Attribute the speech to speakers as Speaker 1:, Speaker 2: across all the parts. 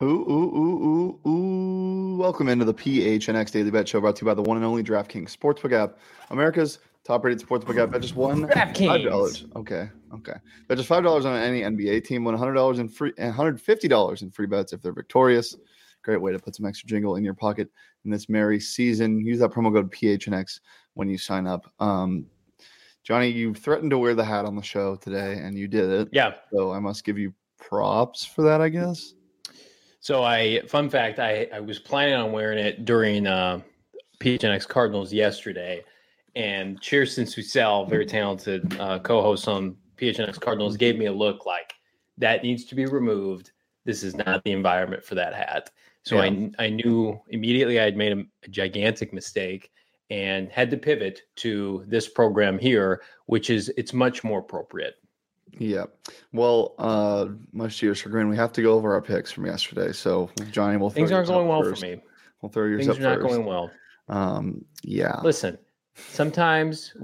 Speaker 1: Ooh, ooh, ooh, ooh, ooh. Welcome into the PHNX Daily Bet Show, brought to you by the one and only DraftKings Sportsbook app, America's top-rated sportsbook app. Bet just $5.
Speaker 2: DraftKings.
Speaker 1: Okay. Bet just $5 on any NBA team. Win $100 in free, $150 in free bets if they're victorious. Great way to put some extra jingle in your pocket in this merry season. Use that promo code PHNX when you sign up. Johnny, you threatened to wear the hat on the show today, and you did it.
Speaker 2: Yeah.
Speaker 1: So I must give you props for that, I guess.
Speaker 2: So fun fact, I was planning on wearing it during PHNX Cardinals yesterday. And Cheerson Susel, very talented co-host on PHNX Cardinals, gave me a look like that needs to be removed. This is not the environment for that hat. So yeah. I knew immediately I had made a gigantic mistake and had to pivot to this program here, which is it's much more appropriate.
Speaker 1: Yeah. Well, much to your chagrin, we have to go over our picks from yesterday. So, Johnny,
Speaker 2: things aren't going well for me.
Speaker 1: We'll throw yours
Speaker 2: up
Speaker 1: first.
Speaker 2: Things are not going well.
Speaker 1: Yeah.
Speaker 2: Listen, sometimes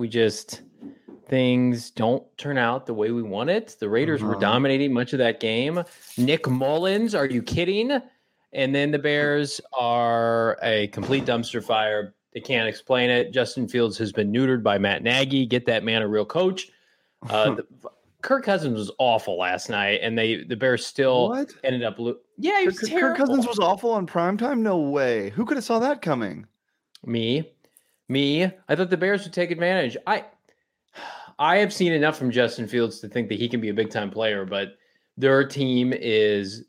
Speaker 2: things don't turn out the way we want it. The Raiders were dominating much of that game. Nick Mullins, are you kidding? And then the Bears are a complete dumpster fire. They can't explain it. Justin Fields has been neutered by Matt Nagy. Get that man a real coach. Kirk Cousins was awful last night, and the Bears still ended up. Yeah, he was terrible.
Speaker 1: Kirk Cousins was awful on primetime? No way. Who could have saw that coming?
Speaker 2: Me. I thought the Bears would take advantage. I have seen enough from Justin Fields to think that he can be a big-time player, but their team is,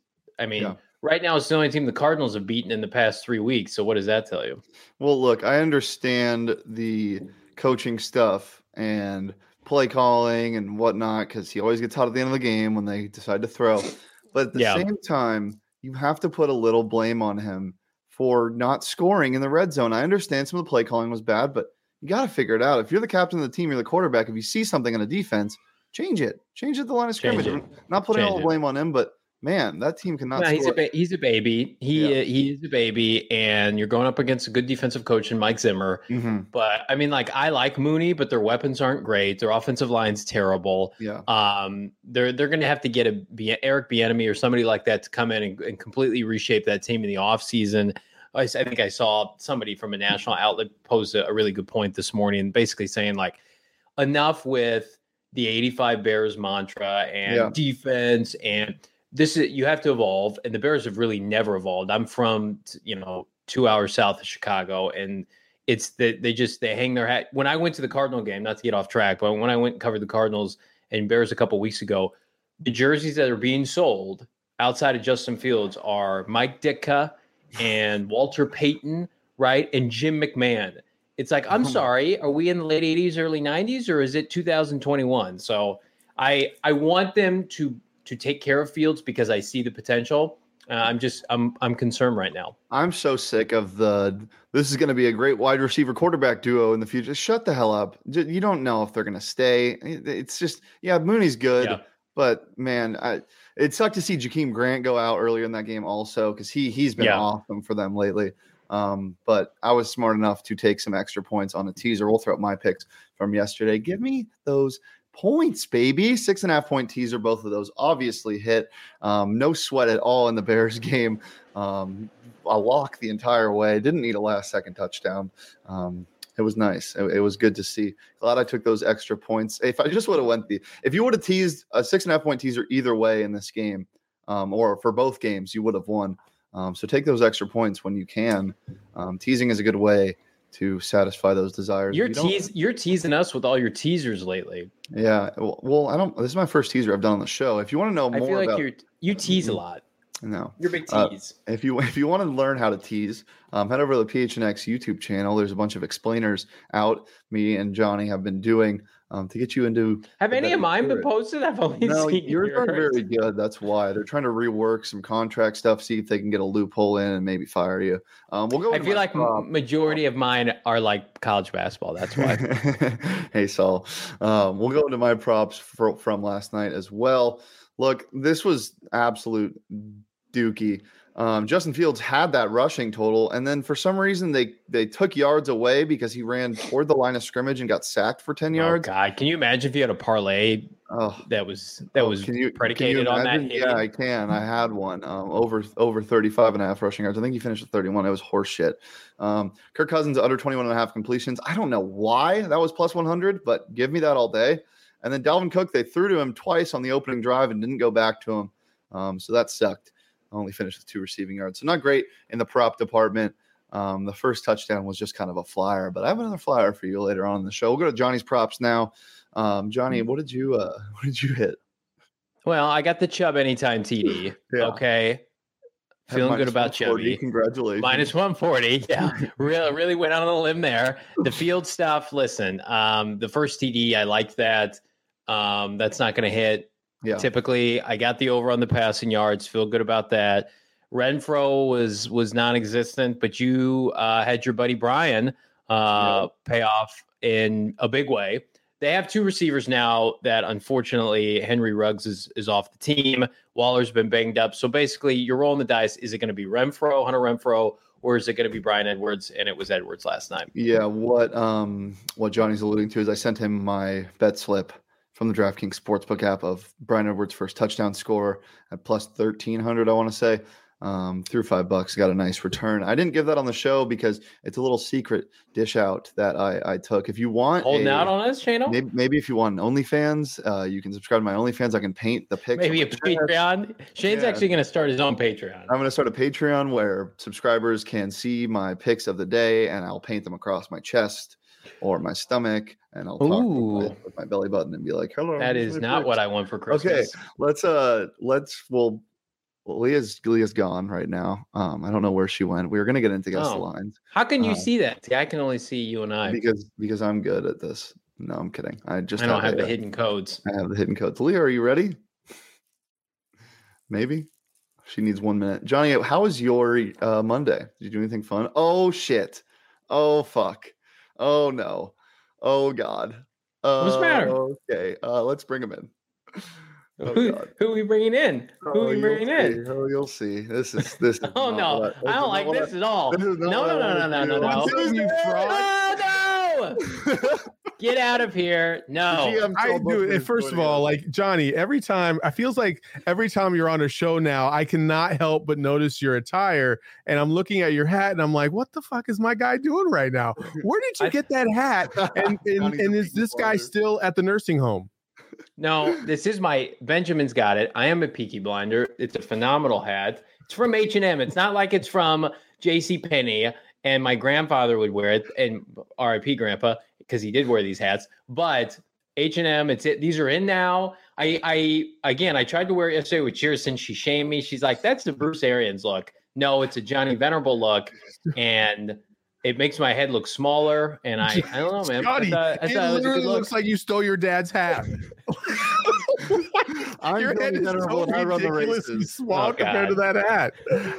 Speaker 2: right now it's the only team the Cardinals have beaten in the past 3 weeks. So what does that tell you?
Speaker 1: Well, look, I understand the coaching stuff and play calling and whatnot, because he always gets hot at the end of the game when they decide to throw. But at the same time, you have to put a little blame on him for not scoring in the red zone. I understand some of the play calling was bad, but you got to figure it out. If you're the captain of the team, you're the quarterback. If you see something on a defense, change it. Change it at the line of scrimmage. I'm not putting all the blame on him, but man, that team cannot score.
Speaker 2: He's a baby. He is a baby, and you're going up against a good defensive coach in Mike Zimmer.
Speaker 1: Mm-hmm.
Speaker 2: But I like Mooney, but their weapons aren't great. Their offensive line's terrible.
Speaker 1: Yeah.
Speaker 2: They're going to have to get Eric Bieniemy or somebody like that to come in and completely reshape that team in the offseason. I think I saw somebody from a national outlet pose a really good point this morning, basically saying enough with the 85 Bears mantra and defense and you have to evolve, and the Bears have really never evolved. I'm from 2 hours south of Chicago, and it's that they hang their hat. When I went to the Cardinal game, not to get off track, but when I went and covered the Cardinals and Bears a couple weeks ago, the jerseys that are being sold outside of Justin Fields are Mike Ditka and Walter Payton, right, and Jim McMahon. It's like, I'm sorry, are we in the late 80s, early 90s, or is it 2021? So I want them to take care of Fields because I see the potential. I'm concerned right now. I'm
Speaker 1: so sick of this is going to be a great wide receiver quarterback duo in the future. Shut the hell up. You don't know if they're going to stay. It's just, Mooney's good, but man, it sucked to see Jakeem Grant go out earlier in that game also, because he's been awesome for them lately. But I was smart enough to take some extra points on a teaser. We'll throw up my picks from yesterday. Give me those points, baby. 6.5 point teaser. Both of those obviously hit. No sweat at all in the Bears game. A lock the entire way. Didn't need a last second touchdown. It was nice. It was good to see. Glad I took those extra points. If I just would have if you would have teased a 6.5 point teaser either way in this game, or for both games, you would have won. So take those extra points when you can. Teasing is a good way to satisfy those desires.
Speaker 2: You're teasing us with all your teasers lately.
Speaker 1: Yeah. Well, this is my first teaser I've done on the show. If you want to know more, I feel like
Speaker 2: you tease a lot.
Speaker 1: No,
Speaker 2: you're a big tease.
Speaker 1: If you want to learn how to tease, head over to the PHNX YouTube channel. There's a bunch of explainers out. Me and Johnny have been doing to get you into.
Speaker 2: Have any of mine been posted? I've only seen
Speaker 1: yours. Are very good. That's why they're trying to rework some contract stuff, see if they can get a loophole in and maybe fire you. We'll go.
Speaker 2: I feel like majority of mine are like college basketball. That's why.
Speaker 1: Hey, Saul. We'll go into my props from last night as well. Look, this was absolute dookie. Justin Fields had that rushing total, and then for some reason they took yards away because he ran toward the line of scrimmage and got sacked for 10 yards.
Speaker 2: Oh God, can you imagine if you had a parlay that was predicated on that hitting?
Speaker 1: Yeah, I can. I had one over 35.5 rushing yards. I think he finished with 31. It was horse shit. Kirk Cousins under 21.5 completions. I don't know why that was plus 100, but give me that all day. And then Dalvin Cook, they threw to him twice on the opening drive and didn't go back to him. So that sucked. Only finished with 2 receiving yards. So not great in the prop department. The first touchdown was just kind of a flyer, but I have another flyer for you later on in the show. We'll go to Johnny's props now. Johnny, what did you hit?
Speaker 2: Well, I got the Chubb anytime TD. Yeah. Okay. Feeling good about Chubby.
Speaker 1: Congratulations.
Speaker 2: Minus 140. Yeah. really went out on a limb there. The field stuff, listen, the first TD, I liked that. That's not going to hit. Yeah. Typically, I got the over on the passing yards. Feel good about that. Renfro was non-existent, but you had your buddy Brian pay off in a big way. They have 2 receivers now that, unfortunately, Henry Ruggs is off the team. Waller's been banged up. So basically, you're rolling the dice. Is it going to be Hunter Renfro, or is it going to be Bryan Edwards? And it was Edwards last night.
Speaker 1: Yeah, what Johnny's alluding to is I sent him my bet slip from the DraftKings Sportsbook app of Bryan Edwards' first touchdown score at plus 1,300, I want to say. Threw $5, got a nice return. I didn't give that on the show because it's a little secret dish out that I took. If you want
Speaker 2: holding out on us, channel,
Speaker 1: maybe if you want OnlyFans, you can subscribe to my OnlyFans. I can paint the picture.
Speaker 2: Maybe a Patreon. Shane's actually going to start his own Patreon.
Speaker 1: I'm going to start a Patreon where subscribers can see my picks of the day, and I'll paint them across my chest or my stomach, and I'll talk with my belly button and be like, "Hello."
Speaker 2: That is not what I want for Christmas.
Speaker 1: Okay, Leah's gone right now. I don't know where she went. We were gonna get into guess the lines.
Speaker 2: How can you see that? See, I can only see you and I
Speaker 1: because I'm good at this. No, I'm kidding. I
Speaker 2: don't have the hidden codes.
Speaker 1: I have the hidden codes. Leah, are you ready? Maybe. She needs 1 minute. Johnny, how was your Monday? Did you do anything fun? Oh shit. Oh fuck. Oh no. Oh God.
Speaker 2: What's the matter?
Speaker 1: Okay. Let's bring him in.
Speaker 2: Who are we bringing in? Who are we bringing in?
Speaker 1: Oh, you'll see. This is.
Speaker 2: Oh no, I don't like this at all. No.
Speaker 1: You fraud.
Speaker 2: Oh no! Get out of here. No.
Speaker 3: I do it. First of all, like Johnny, every time you're on a show now, I cannot help but notice your attire, and I'm looking at your hat, and I'm like, what the fuck is my guy doing right now? Where did you get that hat? And is this guy still at the nursing home?
Speaker 2: No, this is Benjamin's got it. I am a Peaky Blinder. It's a phenomenal hat. It's from H&M. It's not like it's from JCPenney, and my grandfather would wear it, and RIP grandpa, because he did wear these hats. But H&M, these are in now. I tried to wear it yesterday with Cheerson. She shamed me. She's like, that's the Bruce Arians look. No, it's a Johnny Venerable look. And it makes my head look smaller, and I don't know, man.
Speaker 3: Scotty, it literally looks like you stole your dad's hat. Your head is so ridiculously small compared to that hat.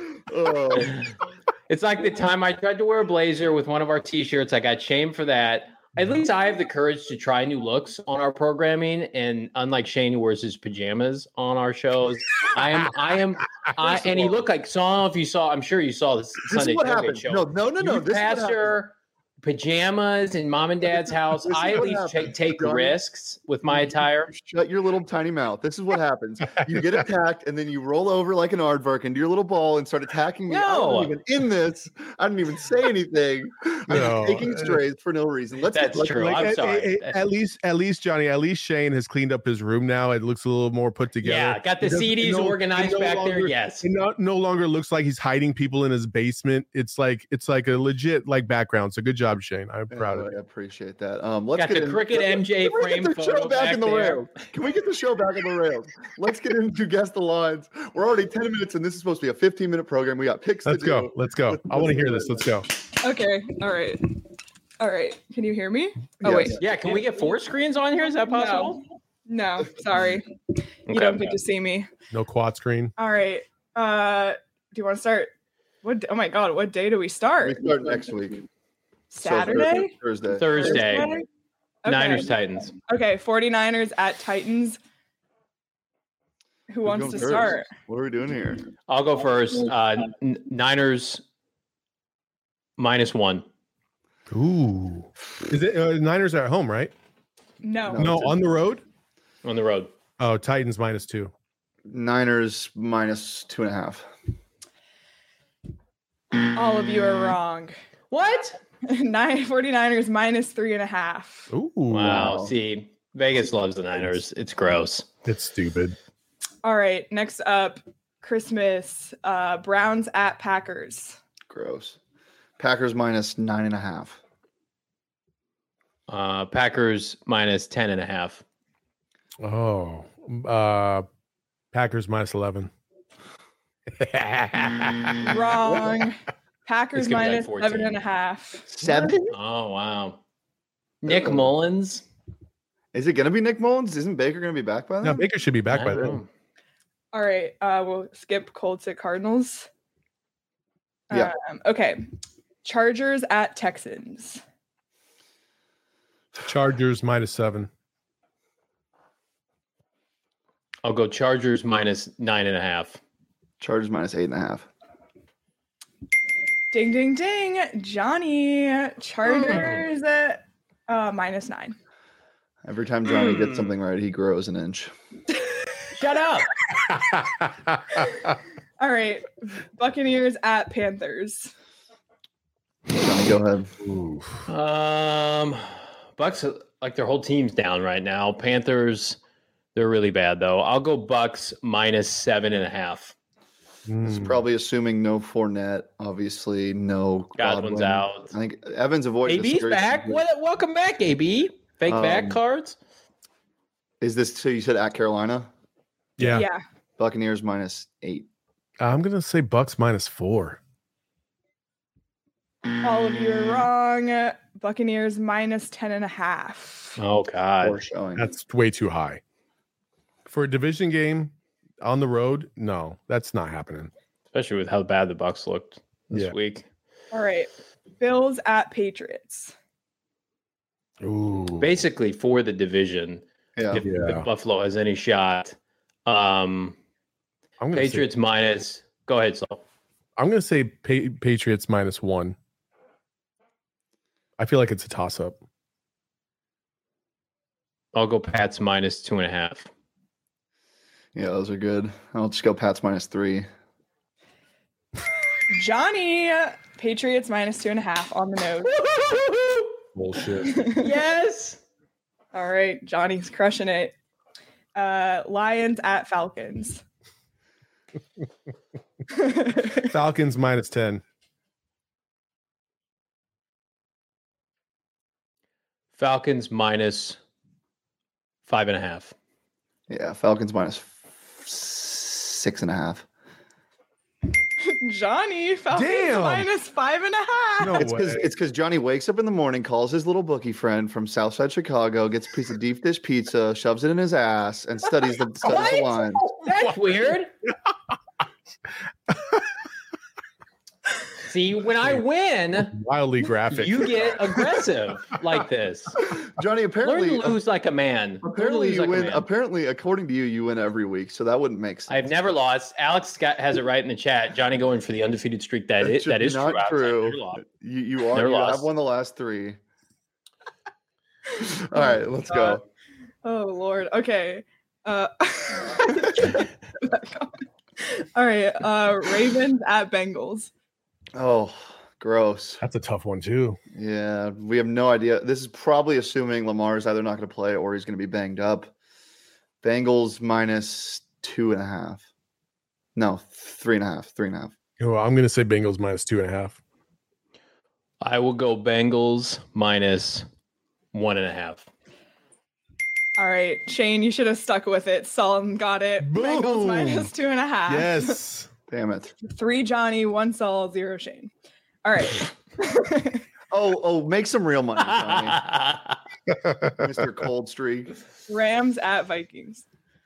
Speaker 2: It's like the time I tried to wear a blazer with one of our T-shirts. I got shamed for that. At least I have the courage to try new looks on our programming, and unlike Shane, who wears his pajamas on our shows, and he looked like. So I don't know if you saw. I'm sure you saw this Sunday Tailgate show.
Speaker 1: No.
Speaker 2: This pastor pajamas in mom and dad's house. I at least take risks with my attire.
Speaker 1: Shut your little tiny mouth. This is what happens. You get attacked, and then you roll over like an aardvark into your little ball and start attacking me.
Speaker 2: No.
Speaker 1: I didn't even say anything. I'm taking strays for no reason.
Speaker 2: That's true. I'm sorry.
Speaker 3: At least Johnny, at least Shane has cleaned up his room now. It looks a little more put together.
Speaker 2: Yeah, got the CDs organized back there. Yes.
Speaker 3: It no longer looks like he's hiding people in his basement. It's like a legit background. So good job, Shane. I'm proud of it.
Speaker 1: I appreciate that.
Speaker 2: Let's get the cricket MJ frame photo back in the rails.
Speaker 1: Can we get the show back in the rails? Let's get into Guess the Lines. We're already 10 minutes, and this is supposed to be a 15-minute program. We got picks.
Speaker 3: Let's go. I want to hear this. Let's go.
Speaker 4: Okay. All right. Can you hear me? Oh, wait.
Speaker 2: Yeah. Can we get 4 screens on here? Is that possible?
Speaker 4: No. Sorry. You don't get to see me.
Speaker 3: No quad screen.
Speaker 4: All right. Do you want to start? Oh my God. What day do we start?
Speaker 1: We start next week.
Speaker 4: Saturday?
Speaker 2: Thursday. Okay. Niners Titans.
Speaker 4: Okay, 49ers at Titans. Who wants
Speaker 1: going
Speaker 4: to
Speaker 1: first?
Speaker 4: start?
Speaker 1: What are we doing here?
Speaker 2: I'll go first. Niners -1.
Speaker 3: Ooh. Is it Niners are at home, right?
Speaker 4: No.
Speaker 3: No, on the road?
Speaker 2: On the road.
Speaker 3: Oh, Titans -2.
Speaker 1: Niners -2.5.
Speaker 4: All of you are wrong.
Speaker 2: What?
Speaker 4: 49ers -3.5.
Speaker 3: Ooh.
Speaker 2: Wow. See, Vegas loves the Niners. It's gross.
Speaker 3: It's stupid.
Speaker 4: All right. Next up, Christmas. Browns at Packers.
Speaker 1: Gross. Packers -9.5.
Speaker 2: Packers -10.5.
Speaker 3: Oh. Packers -11.
Speaker 4: Wrong. Packers
Speaker 2: It's gonna be like 14.
Speaker 4: -7.5.
Speaker 1: 7?
Speaker 2: Oh wow. Nick Mullins.
Speaker 1: Is it going to be Nick Mullins? Isn't Baker going to be back by then?
Speaker 3: No, Baker should be back
Speaker 2: I
Speaker 3: by
Speaker 2: don't
Speaker 3: then.
Speaker 2: know.
Speaker 4: All right. We'll skip Colts at Cardinals.
Speaker 1: Yeah.
Speaker 4: Okay. Chargers at Texans.
Speaker 3: Chargers -7.
Speaker 2: I'll go Chargers -9.5.
Speaker 1: Chargers -8.5.
Speaker 4: Ding, ding, ding. Johnny. Chargers at -9.
Speaker 1: Every time Johnny gets something right, he grows an inch.
Speaker 2: Shut up.
Speaker 4: All right. Buccaneers at Panthers.
Speaker 1: Johnny, go ahead.
Speaker 3: Ooh.
Speaker 2: Bucks, like their whole team's down right now. Panthers, they're really bad though. I'll go Bucks -7.5.
Speaker 1: It's probably assuming no Fournette, obviously no
Speaker 2: Godwin's
Speaker 1: Godwin.
Speaker 2: out.
Speaker 1: I think Evans avoided
Speaker 2: AB's back. Welcome back, AB. Fake back cards.
Speaker 1: Is this so? You said at Carolina?
Speaker 3: Yeah.
Speaker 4: Yeah.
Speaker 1: Buccaneers -8.
Speaker 3: I'm going to say Bucks -4.
Speaker 4: All of you are wrong. Buccaneers -10.5.
Speaker 2: Oh God.
Speaker 1: Poor showing.
Speaker 3: That's way too high. For a division game on the road, no, that's not happening.
Speaker 2: Especially with how bad the Bucks looked this week.
Speaker 4: All right. Bills at Patriots.
Speaker 3: Ooh.
Speaker 2: Basically for the division.
Speaker 1: Yeah.
Speaker 2: If Buffalo has any shot.
Speaker 3: I'm gonna
Speaker 2: Patriots minus. Go ahead, Saul.
Speaker 3: I'm going to say Patriots -1. I feel like it's a toss-up.
Speaker 2: I'll go Pats -2.5.
Speaker 1: Yeah, those are good. I'll just go Pats -3.
Speaker 4: Johnny. Patriots -2.5 on the nose.
Speaker 3: Bullshit.
Speaker 2: Yes.
Speaker 4: All right. Johnny's crushing it. Lions at Falcons.
Speaker 3: Falcons -10.
Speaker 2: Falcons -5.5.
Speaker 1: Yeah, Falcons -6.5.
Speaker 4: Johnny. Falcons
Speaker 3: Damn.
Speaker 4: -5.5.
Speaker 3: No
Speaker 1: It's
Speaker 3: way.
Speaker 1: because Johnny wakes up in the morning, calls his little bookie friend from Southside Chicago, gets a piece of deep dish pizza, shoves it in his ass, and studies the line.
Speaker 2: That's weird. See, when I win,
Speaker 3: Wildly graphic.
Speaker 2: you get aggressive like this.
Speaker 1: Johnny,
Speaker 2: Learn
Speaker 1: apparently,
Speaker 2: to lose like a man. Learn to
Speaker 1: apparently
Speaker 2: lose
Speaker 1: you
Speaker 2: like a
Speaker 1: win.
Speaker 2: man.
Speaker 1: Apparently, according to you, you win every week, so that wouldn't make sense.
Speaker 2: I've never lost. Alex Scott has it right in the chat. Johnny going for the undefeated streak. That is
Speaker 1: not
Speaker 2: true. Alex. I've
Speaker 1: true.
Speaker 2: never lost.
Speaker 1: You
Speaker 2: Never
Speaker 1: have
Speaker 2: lost.
Speaker 1: won the last 3. All right, let's go.
Speaker 4: Oh Lord. Okay. All right. Ravens at Bengals.
Speaker 1: Oh, gross.
Speaker 3: That's a tough one too.
Speaker 1: Yeah, we have no idea. This is probably assuming Lamar's either not going to play or he's going to be banged up. Bengals -2.5. No, 3.5. 3.5.
Speaker 3: Oh, I'm going to say Bengals -2.5.
Speaker 2: I will go Bengals -1.5.
Speaker 4: All right, Shane, you should have stuck with it. Saul got it. Bengals
Speaker 3: Boom.
Speaker 4: -2.5.
Speaker 3: Yes.
Speaker 1: Damn it.
Speaker 4: 3 Johnny, 1 Saul, 0 Shane. All right.
Speaker 1: Oh, make some real money, Johnny. Mr. Cold Streak.
Speaker 4: Rams at Vikings.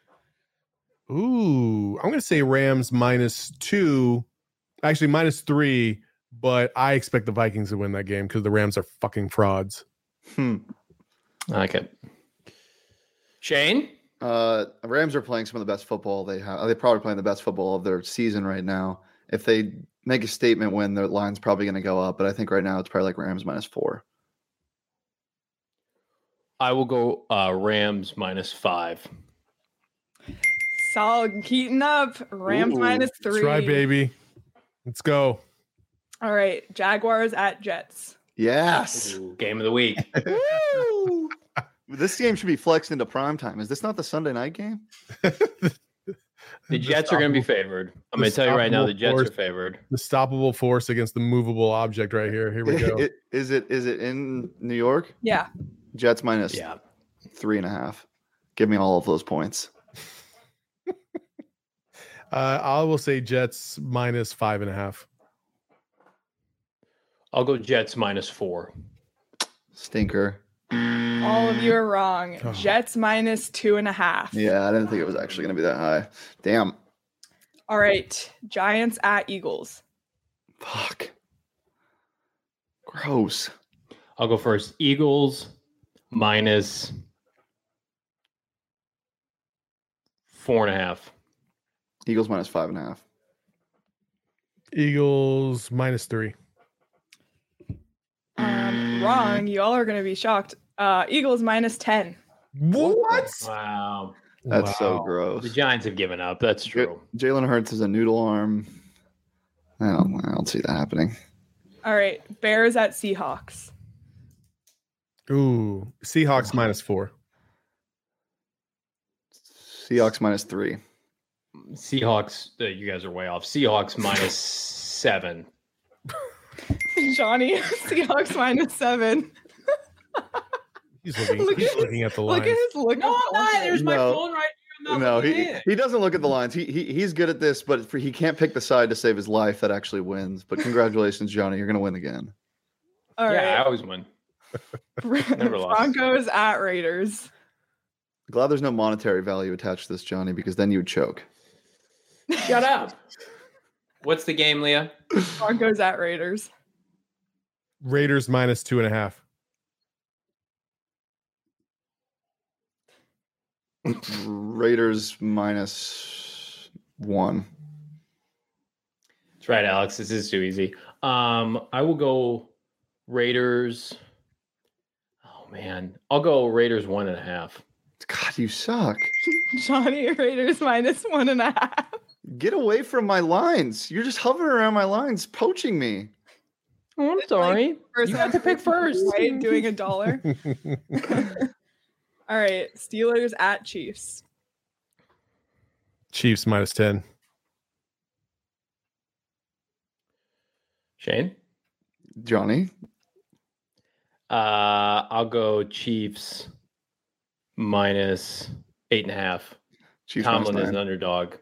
Speaker 3: Ooh, I'm going to say Rams -2. Actually, -3. But I expect the Vikings to win that game because the Rams are fucking frauds.
Speaker 2: Okay. Shane?
Speaker 1: Rams are playing some of the best football they have. They're probably playing the best football of their season right now. If they make a statement win, their line's probably going to go up. But I think right now it's probably like Rams -4.
Speaker 2: I will go Rams -5.
Speaker 4: Solid. Keaton up. Rams -3.
Speaker 3: That's right, baby. Let's go.
Speaker 4: All right. Jaguars at Jets.
Speaker 1: Yes.
Speaker 2: Ooh, game of the week.
Speaker 1: Woo! This game should be flexed into prime time. Is this not the Sunday night game?
Speaker 2: The Jets are going to be favored. I'm going to tell you right now, the Jets are favored.
Speaker 3: The stoppable force against the movable object right here. Here we go.
Speaker 1: Is it in New York?
Speaker 4: Yeah.
Speaker 1: Jets -3.5. Give me all of those points.
Speaker 3: I will say Jets -5.5.
Speaker 2: I'll go Jets -4.
Speaker 1: Stinker.
Speaker 4: All of you are wrong.
Speaker 3: Oh.
Speaker 4: Jets -2.5.
Speaker 1: Yeah, I didn't think it was actually going to be that high. Damn.
Speaker 4: All right. Giants at Eagles.
Speaker 1: Fuck. Gross.
Speaker 2: I'll go first. Eagles -4.5.
Speaker 1: Eagles -5.5.
Speaker 3: Eagles -3.
Speaker 4: Wrong. You all are going to be shocked. Eagles -10.
Speaker 3: What?
Speaker 2: Wow.
Speaker 1: That's so
Speaker 3: Wow.
Speaker 1: gross.
Speaker 2: The Giants have given up. That's true.
Speaker 1: Jalen Hurts is a noodle arm. I don't see that happening.
Speaker 4: All right. Bears at Seahawks.
Speaker 3: Ooh, Seahawks -4.
Speaker 1: Seahawks -3.
Speaker 2: Seahawks, you guys are way off. Seahawks -7.
Speaker 4: Johnny, Seahawks -7.
Speaker 3: He's looking at the line.
Speaker 4: Look at his look.
Speaker 2: No, I'm not. There's my
Speaker 1: No.
Speaker 2: phone right here.
Speaker 1: No, he doesn't look at the lines. He's good at this, but he can't pick the side to save his life that actually wins. But congratulations, Johnny. You're going to win again.
Speaker 4: All
Speaker 2: Yeah, I
Speaker 4: right.
Speaker 2: always win. Never lost.
Speaker 4: Broncos at Raiders.
Speaker 1: Glad there's no monetary value attached to this, Johnny, because then you would choke.
Speaker 2: Shut up. What's the game, Leah?
Speaker 4: Broncos at Raiders.
Speaker 3: Raiders -2.5.
Speaker 1: Raiders -1.
Speaker 2: That's right, Alex. This is too easy. I will go Raiders. Oh man, I'll go Raiders 1.5.
Speaker 1: God, you suck.
Speaker 4: Johnny, Raiders -1.5.
Speaker 1: Get away from my lines. You're just hovering around my lines, poaching me.
Speaker 2: Oh, I'm sorry.
Speaker 4: First
Speaker 2: You got to pick first.
Speaker 4: Right, doing $1. All right, Steelers at Chiefs.
Speaker 3: Chiefs -10.
Speaker 2: Shane?
Speaker 1: Johnny,
Speaker 2: I'll go Chiefs -8.5.
Speaker 1: Chiefs
Speaker 2: Tomlin is
Speaker 1: -9.
Speaker 2: an underdog.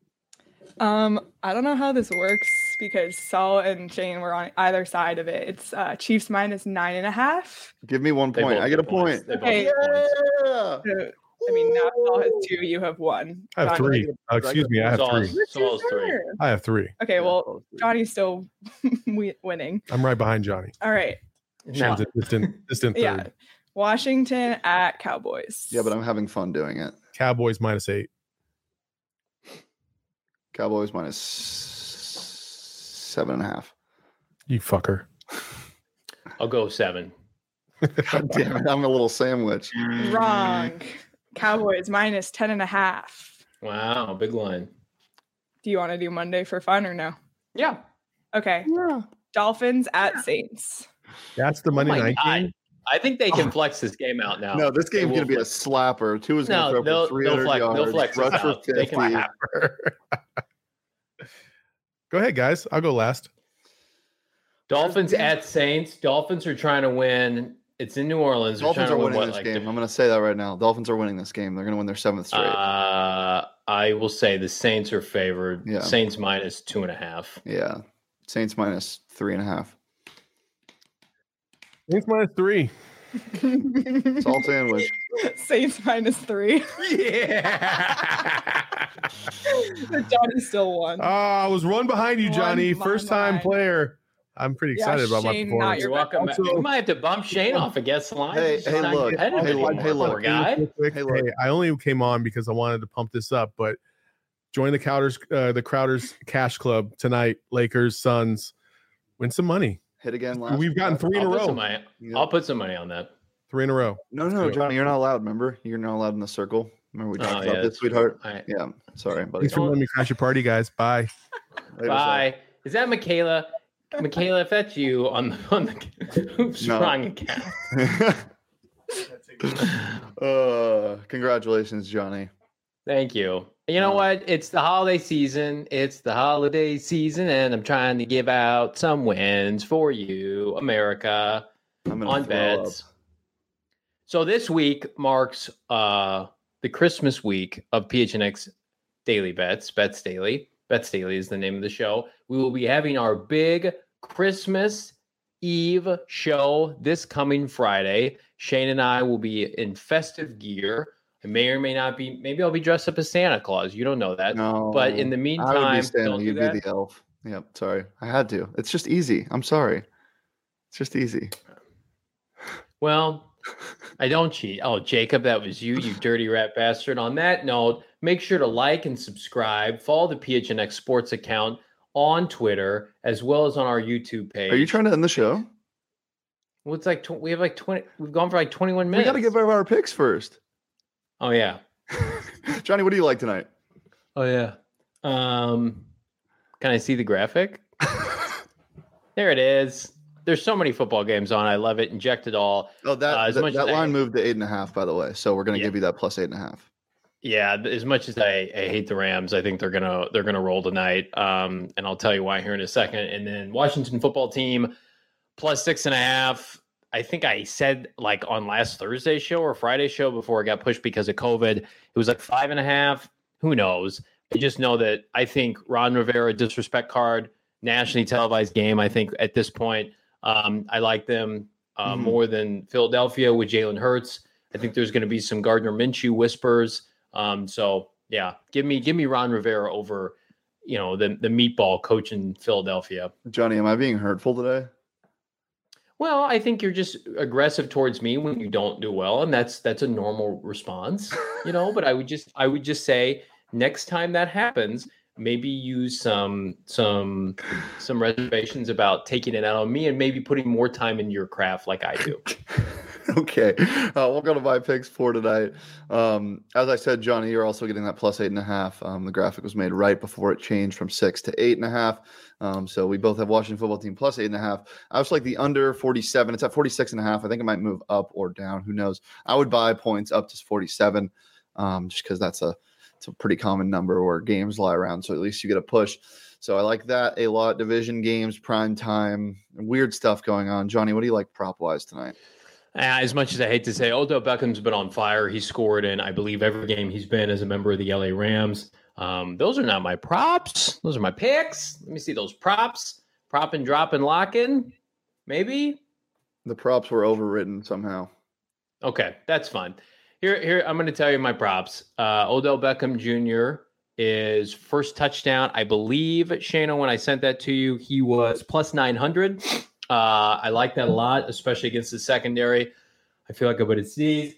Speaker 4: I don't know how this works because Saul and Shane were on either side of it. It's Chiefs -9.5.
Speaker 1: Give me 1
Speaker 2: They
Speaker 1: point.
Speaker 2: both
Speaker 1: I get a
Speaker 2: get points.
Speaker 1: point.
Speaker 2: They both
Speaker 4: Okay.
Speaker 2: get points.
Speaker 1: Yeah.
Speaker 4: So, I mean, now Saul has 2. You have 1.
Speaker 3: I have
Speaker 4: Johnny-
Speaker 3: 3. Excuse me, I have
Speaker 2: Saul's-
Speaker 3: 3.
Speaker 2: Saul's 3.
Speaker 3: I have 3.
Speaker 4: Okay,
Speaker 1: Yeah,
Speaker 4: well,
Speaker 1: both three.
Speaker 4: Johnny's still winning.
Speaker 3: I'm right behind Johnny.
Speaker 4: All right.
Speaker 2: No.
Speaker 3: Shane's a distant third.
Speaker 4: Yeah. Washington at Cowboys.
Speaker 1: Yeah, but I'm having fun doing it.
Speaker 3: Cowboys -8.
Speaker 1: Cowboys -7.5.
Speaker 3: You fucker.
Speaker 2: I'll go 7.
Speaker 1: God damn it. I'm a little sandwich.
Speaker 4: Wrong. Cowboys -10.5.
Speaker 2: Wow, big line.
Speaker 4: Do you want to do Monday for fun or no?
Speaker 2: Yeah.
Speaker 4: Okay.
Speaker 1: Yeah.
Speaker 4: Dolphins at Saints.
Speaker 3: That's the Monday night game.
Speaker 2: I think they can flex this game out now.
Speaker 1: No, this
Speaker 2: They
Speaker 1: game's
Speaker 2: will
Speaker 1: going to be a
Speaker 2: flex-
Speaker 1: slapper. Two is going
Speaker 2: No,
Speaker 1: to throw
Speaker 2: they'll-
Speaker 1: for 300
Speaker 2: they'll
Speaker 1: yards.
Speaker 2: flex this
Speaker 1: Rush for
Speaker 2: out. They
Speaker 1: 50.
Speaker 2: can-
Speaker 3: Go ahead, guys. I'll go last.
Speaker 2: Dolphins at Saints. Dolphins are trying to win. It's in New Orleans. They're
Speaker 1: Dolphins
Speaker 2: trying
Speaker 1: are
Speaker 2: to win
Speaker 1: winning
Speaker 2: what,
Speaker 1: this
Speaker 2: like,
Speaker 1: game. I'm going to say that right now. Dolphins are winning this game. They're going to win their 7th straight.
Speaker 2: I will say the Saints are favored.
Speaker 1: Yeah.
Speaker 2: Saints -2.5.
Speaker 1: Yeah. Saints -3.5.
Speaker 3: Saints -3.
Speaker 1: Salt sandwich.
Speaker 4: Saints -3.
Speaker 2: Yeah.
Speaker 4: But Johnny still won.
Speaker 3: I was one behind you, Johnny.
Speaker 4: One
Speaker 3: First time
Speaker 4: behind.
Speaker 3: player. I'm pretty excited about my
Speaker 4: Shane,
Speaker 3: performance.
Speaker 2: You're welcome. We might have to bump Shane off a guest line.
Speaker 1: Hey, look. Hey, look.
Speaker 3: Hey, I only came on because I wanted to pump this up, but join the Crowders Cash Club tonight. Lakers, Suns, win some money.
Speaker 1: Hit again.
Speaker 3: We've gotten 3 in a row.
Speaker 2: I'll put some money on that.
Speaker 3: 3 in a row.
Speaker 1: No, Johnny, you're not allowed. Remember, you're not allowed in the circle. Remember we talked about this, sweetheart. Yeah, sorry, buddy.
Speaker 3: Thanks for letting me crash your party, guys. Bye.
Speaker 2: Bye. Is that Michaela? Michaela, if that's you on the Hoops Strong account.
Speaker 1: Congratulations, Johnny.
Speaker 2: Thank you. You know what? It's the holiday season. And I'm trying to give out some wins for you, America, on bets. So this week marks the Christmas week of PHNX Daily Bets. Bets Daily. Bets Daily is the name of the show. We will be having our big Christmas Eve show this coming Friday. Shane and I will be in festive gear. I may or may not be. Maybe I'll be dressed up as Santa Claus. You don't know that.
Speaker 1: No,
Speaker 2: but in the meantime,
Speaker 1: I would be Santa.
Speaker 2: don't
Speaker 1: You'd
Speaker 2: do that.
Speaker 1: be the elf. Yep. Sorry, I had to. It's just easy. I'm sorry. It's just easy.
Speaker 2: Well, I don't cheat. Oh, Jacob, that was you dirty rat bastard. On that note, make sure to like and subscribe. Follow the PHNX Sports account on Twitter as well as on our YouTube page.
Speaker 1: Are you trying to end the show?
Speaker 2: Well, it's like we have like 20. We've gone for like 21 minutes.
Speaker 1: We got to give our picks first.
Speaker 2: Oh yeah,
Speaker 1: Johnny, what do you like tonight?
Speaker 2: Oh yeah. Can I see the graphic? There it is. There's so many football games on. I love it. Inject it all.
Speaker 1: Oh, that line moved to 8.5, by the way. So we're going to give you that plus 8.5.
Speaker 2: Yeah, as much as I hate the Rams, I think they're gonna roll tonight. And I'll tell you why here in a second. And then Washington football team plus 6.5. I think I said like on last Thursday's show or Friday's show before it got pushed because of COVID, it was like 5.5. Who knows? I just know that I think Ron Rivera disrespect card, nationally televised game. I think at this point, I like them more than Philadelphia with Jalen Hurts. I think there's going to be some Gardner Minshew whispers. So yeah, give me Ron Rivera over, the meatball coach in Philadelphia.
Speaker 1: Johnny, am I being hurtful today?
Speaker 2: Well, I think you're just aggressive towards me when you don't do well, and that's a normal response, But I would just say next time that happens, maybe use some reservations about taking it out on me and maybe putting more time in your craft like I do.
Speaker 1: Okay. We'll go to my picks for tonight. As I said, Johnny, you're also getting that plus 8.5. The graphic was made right before it changed from 6 to 8.5. So we both have Washington football team plus 8.5. I was like the under 47. It's at 46.5. I think it might move up or down. Who knows? I would buy points up to 47 just because it's a pretty common number where games lie around. So at least you get a push. So I like that a lot. Division games, prime time, weird stuff going on. Johnny, what do you like prop wise tonight?
Speaker 2: As much as I hate to say, Odell Beckham's been on fire. He scored in, I believe, every game he's been as a member of the LA Rams. Those are not my props. Those are my picks. Let me see those props. Prop and drop and lock in. Maybe.
Speaker 1: The props were overwritten somehow.
Speaker 2: Okay, that's fine. Here, I'm going to tell you my props. Odell Beckham Jr. is first touchdown. I believe, Shana, when I sent that to you, he was plus 900. I like that a lot, especially against the secondary. I feel like I'm going to sneeze.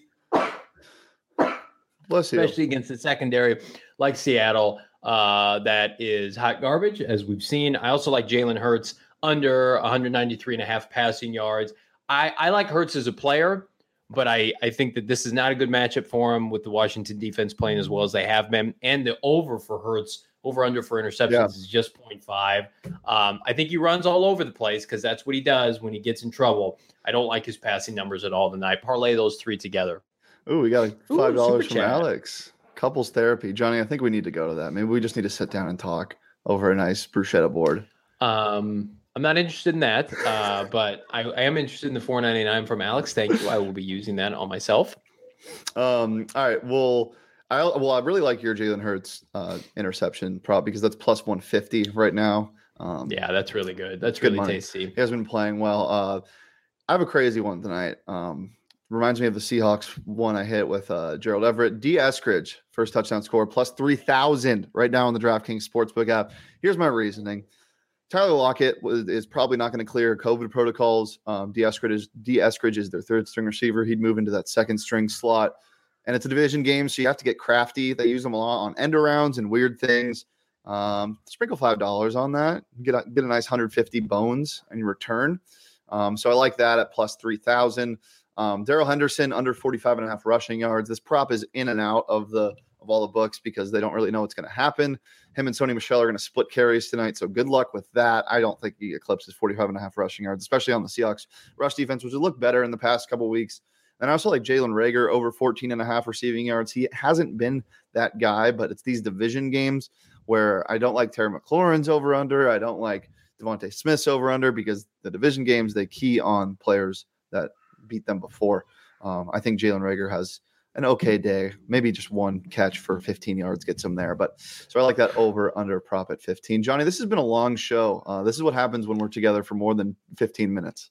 Speaker 1: Bless you.
Speaker 2: Especially against the secondary like Seattle. That is hot garbage, as we've seen. I also like Jalen Hurts under 193.5 passing yards. I like Hurts as a player, but I think that this is not a good matchup for him with the Washington defense playing as well as they have been. And the over for Hurts, over-under for interceptions is just 0.5. I think he runs all over the place because that's what he does when he gets in trouble. I don't like his passing numbers at all tonight. Parlay those three together.
Speaker 1: Ooh, we got $5 from Alex. Couples therapy. Johnny, I think we need to go to that. Maybe we just need to sit down and talk over a nice bruschetta board.
Speaker 2: I'm not interested in that, but I am interested in the $4.99 from Alex. Thank you. I will be using that on myself.
Speaker 1: All right. Well, I really like your Jalen Hurts interception prop because that's plus 150 right now.
Speaker 2: Yeah, that's really good. That's really
Speaker 1: money.
Speaker 2: tasty.
Speaker 1: He has been playing well. I have a crazy one tonight. Reminds me of the Seahawks one I hit with Gerald Everett. D. Eskridge, first touchdown score, plus 3,000 right now on the DraftKings Sportsbook app. Here's my reasoning. Tyler Lockett is probably not going to clear COVID protocols. D. Eskridge is their third string receiver. He'd move into that second string slot. And it's a division game, so you have to get crafty. They use them a lot on end arounds and weird things. Sprinkle $5 on that. Get a nice 150 bones in return. So I like that at plus 3,000. Darrell Henderson under 45.5 rushing yards. This prop is in and out of all the books because they don't really know what's going to happen. Him and Sony Michel are going to split carries tonight, so good luck with that. I don't think he eclipses 45.5 rushing yards, especially on the Seahawks rush defense, which has looked better in the past couple of weeks. And I also like Jalen Reagor over 14.5 receiving yards. He hasn't been that guy, but it's these division games where I don't like Terry McLaurin's over under. I don't like Devontae Smith's over under because the division games, they key on players that beat them before. I think Jalen Reagor has an okay day, maybe just one catch for 15 yards gets him there. But so I like that over under prop at 15. Johnny, this has been a long show. This is what happens when we're together for more than 15 minutes.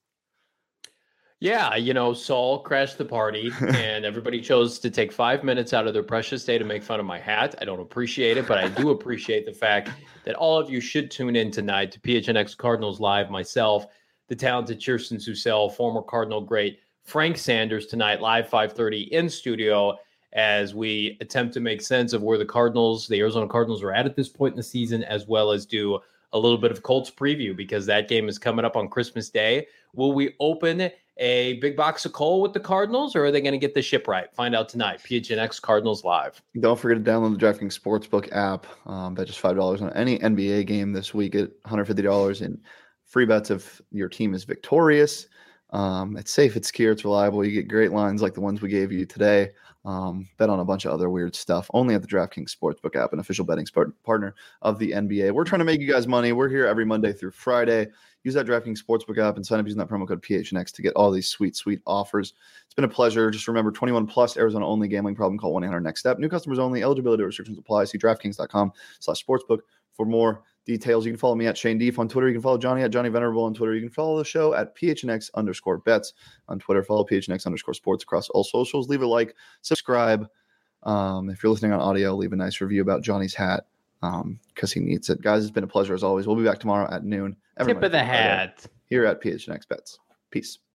Speaker 2: Yeah, Saul crashed the party and everybody chose to take 5 minutes out of their precious day to make fun of my hat. I don't appreciate it, but I do appreciate the fact that all of you should tune in tonight to PHNX Cardinals Live. Myself, the talented Kirsten Susel, former Cardinal great Frank Sanders tonight, live 5:30 in studio as we attempt to make sense of where the Arizona Cardinals are at this point in the season, as well as do a little bit of Colts preview because that game is coming up on Christmas Day. Will we open a big box of coal with the Cardinals, or are they going to get the ship right? Find out tonight. PHNX Cardinals Live.
Speaker 1: Don't forget to download the DraftKings Sportsbook app. Bet just $5 on any NBA game this week at $150 in free bets if your team is victorious. It's safe, it's secure, it's reliable. You get great lines like the ones we gave you today. Bet on a bunch of other weird stuff only at the DraftKings Sportsbook app, an official betting partner of the NBA. We're trying to make you guys money. We're here every Monday through Friday. Use that DraftKings Sportsbook app and sign up using that promo code PHNX to get all these sweet, sweet offers. It's been a pleasure. Just remember, 21 plus, Arizona only. Gambling problem, call 1-800-NEXT-STEP. New customers only. Eligibility restrictions apply. See DraftKings.com/sportsbook for more details. You can follow me at Shane Deef on Twitter. You can follow Johnny at Johnny Venerable on Twitter. You can follow the show at PHNX_bets on Twitter. Follow PHNX_sports across all socials. Leave a like, subscribe. If you're listening on audio, leave a nice review about Johnny's hat because he needs it. Guys, it's been a pleasure as always. We'll be back tomorrow at noon.
Speaker 2: Tip of the hat.
Speaker 1: Here at PHNX Bets. Peace.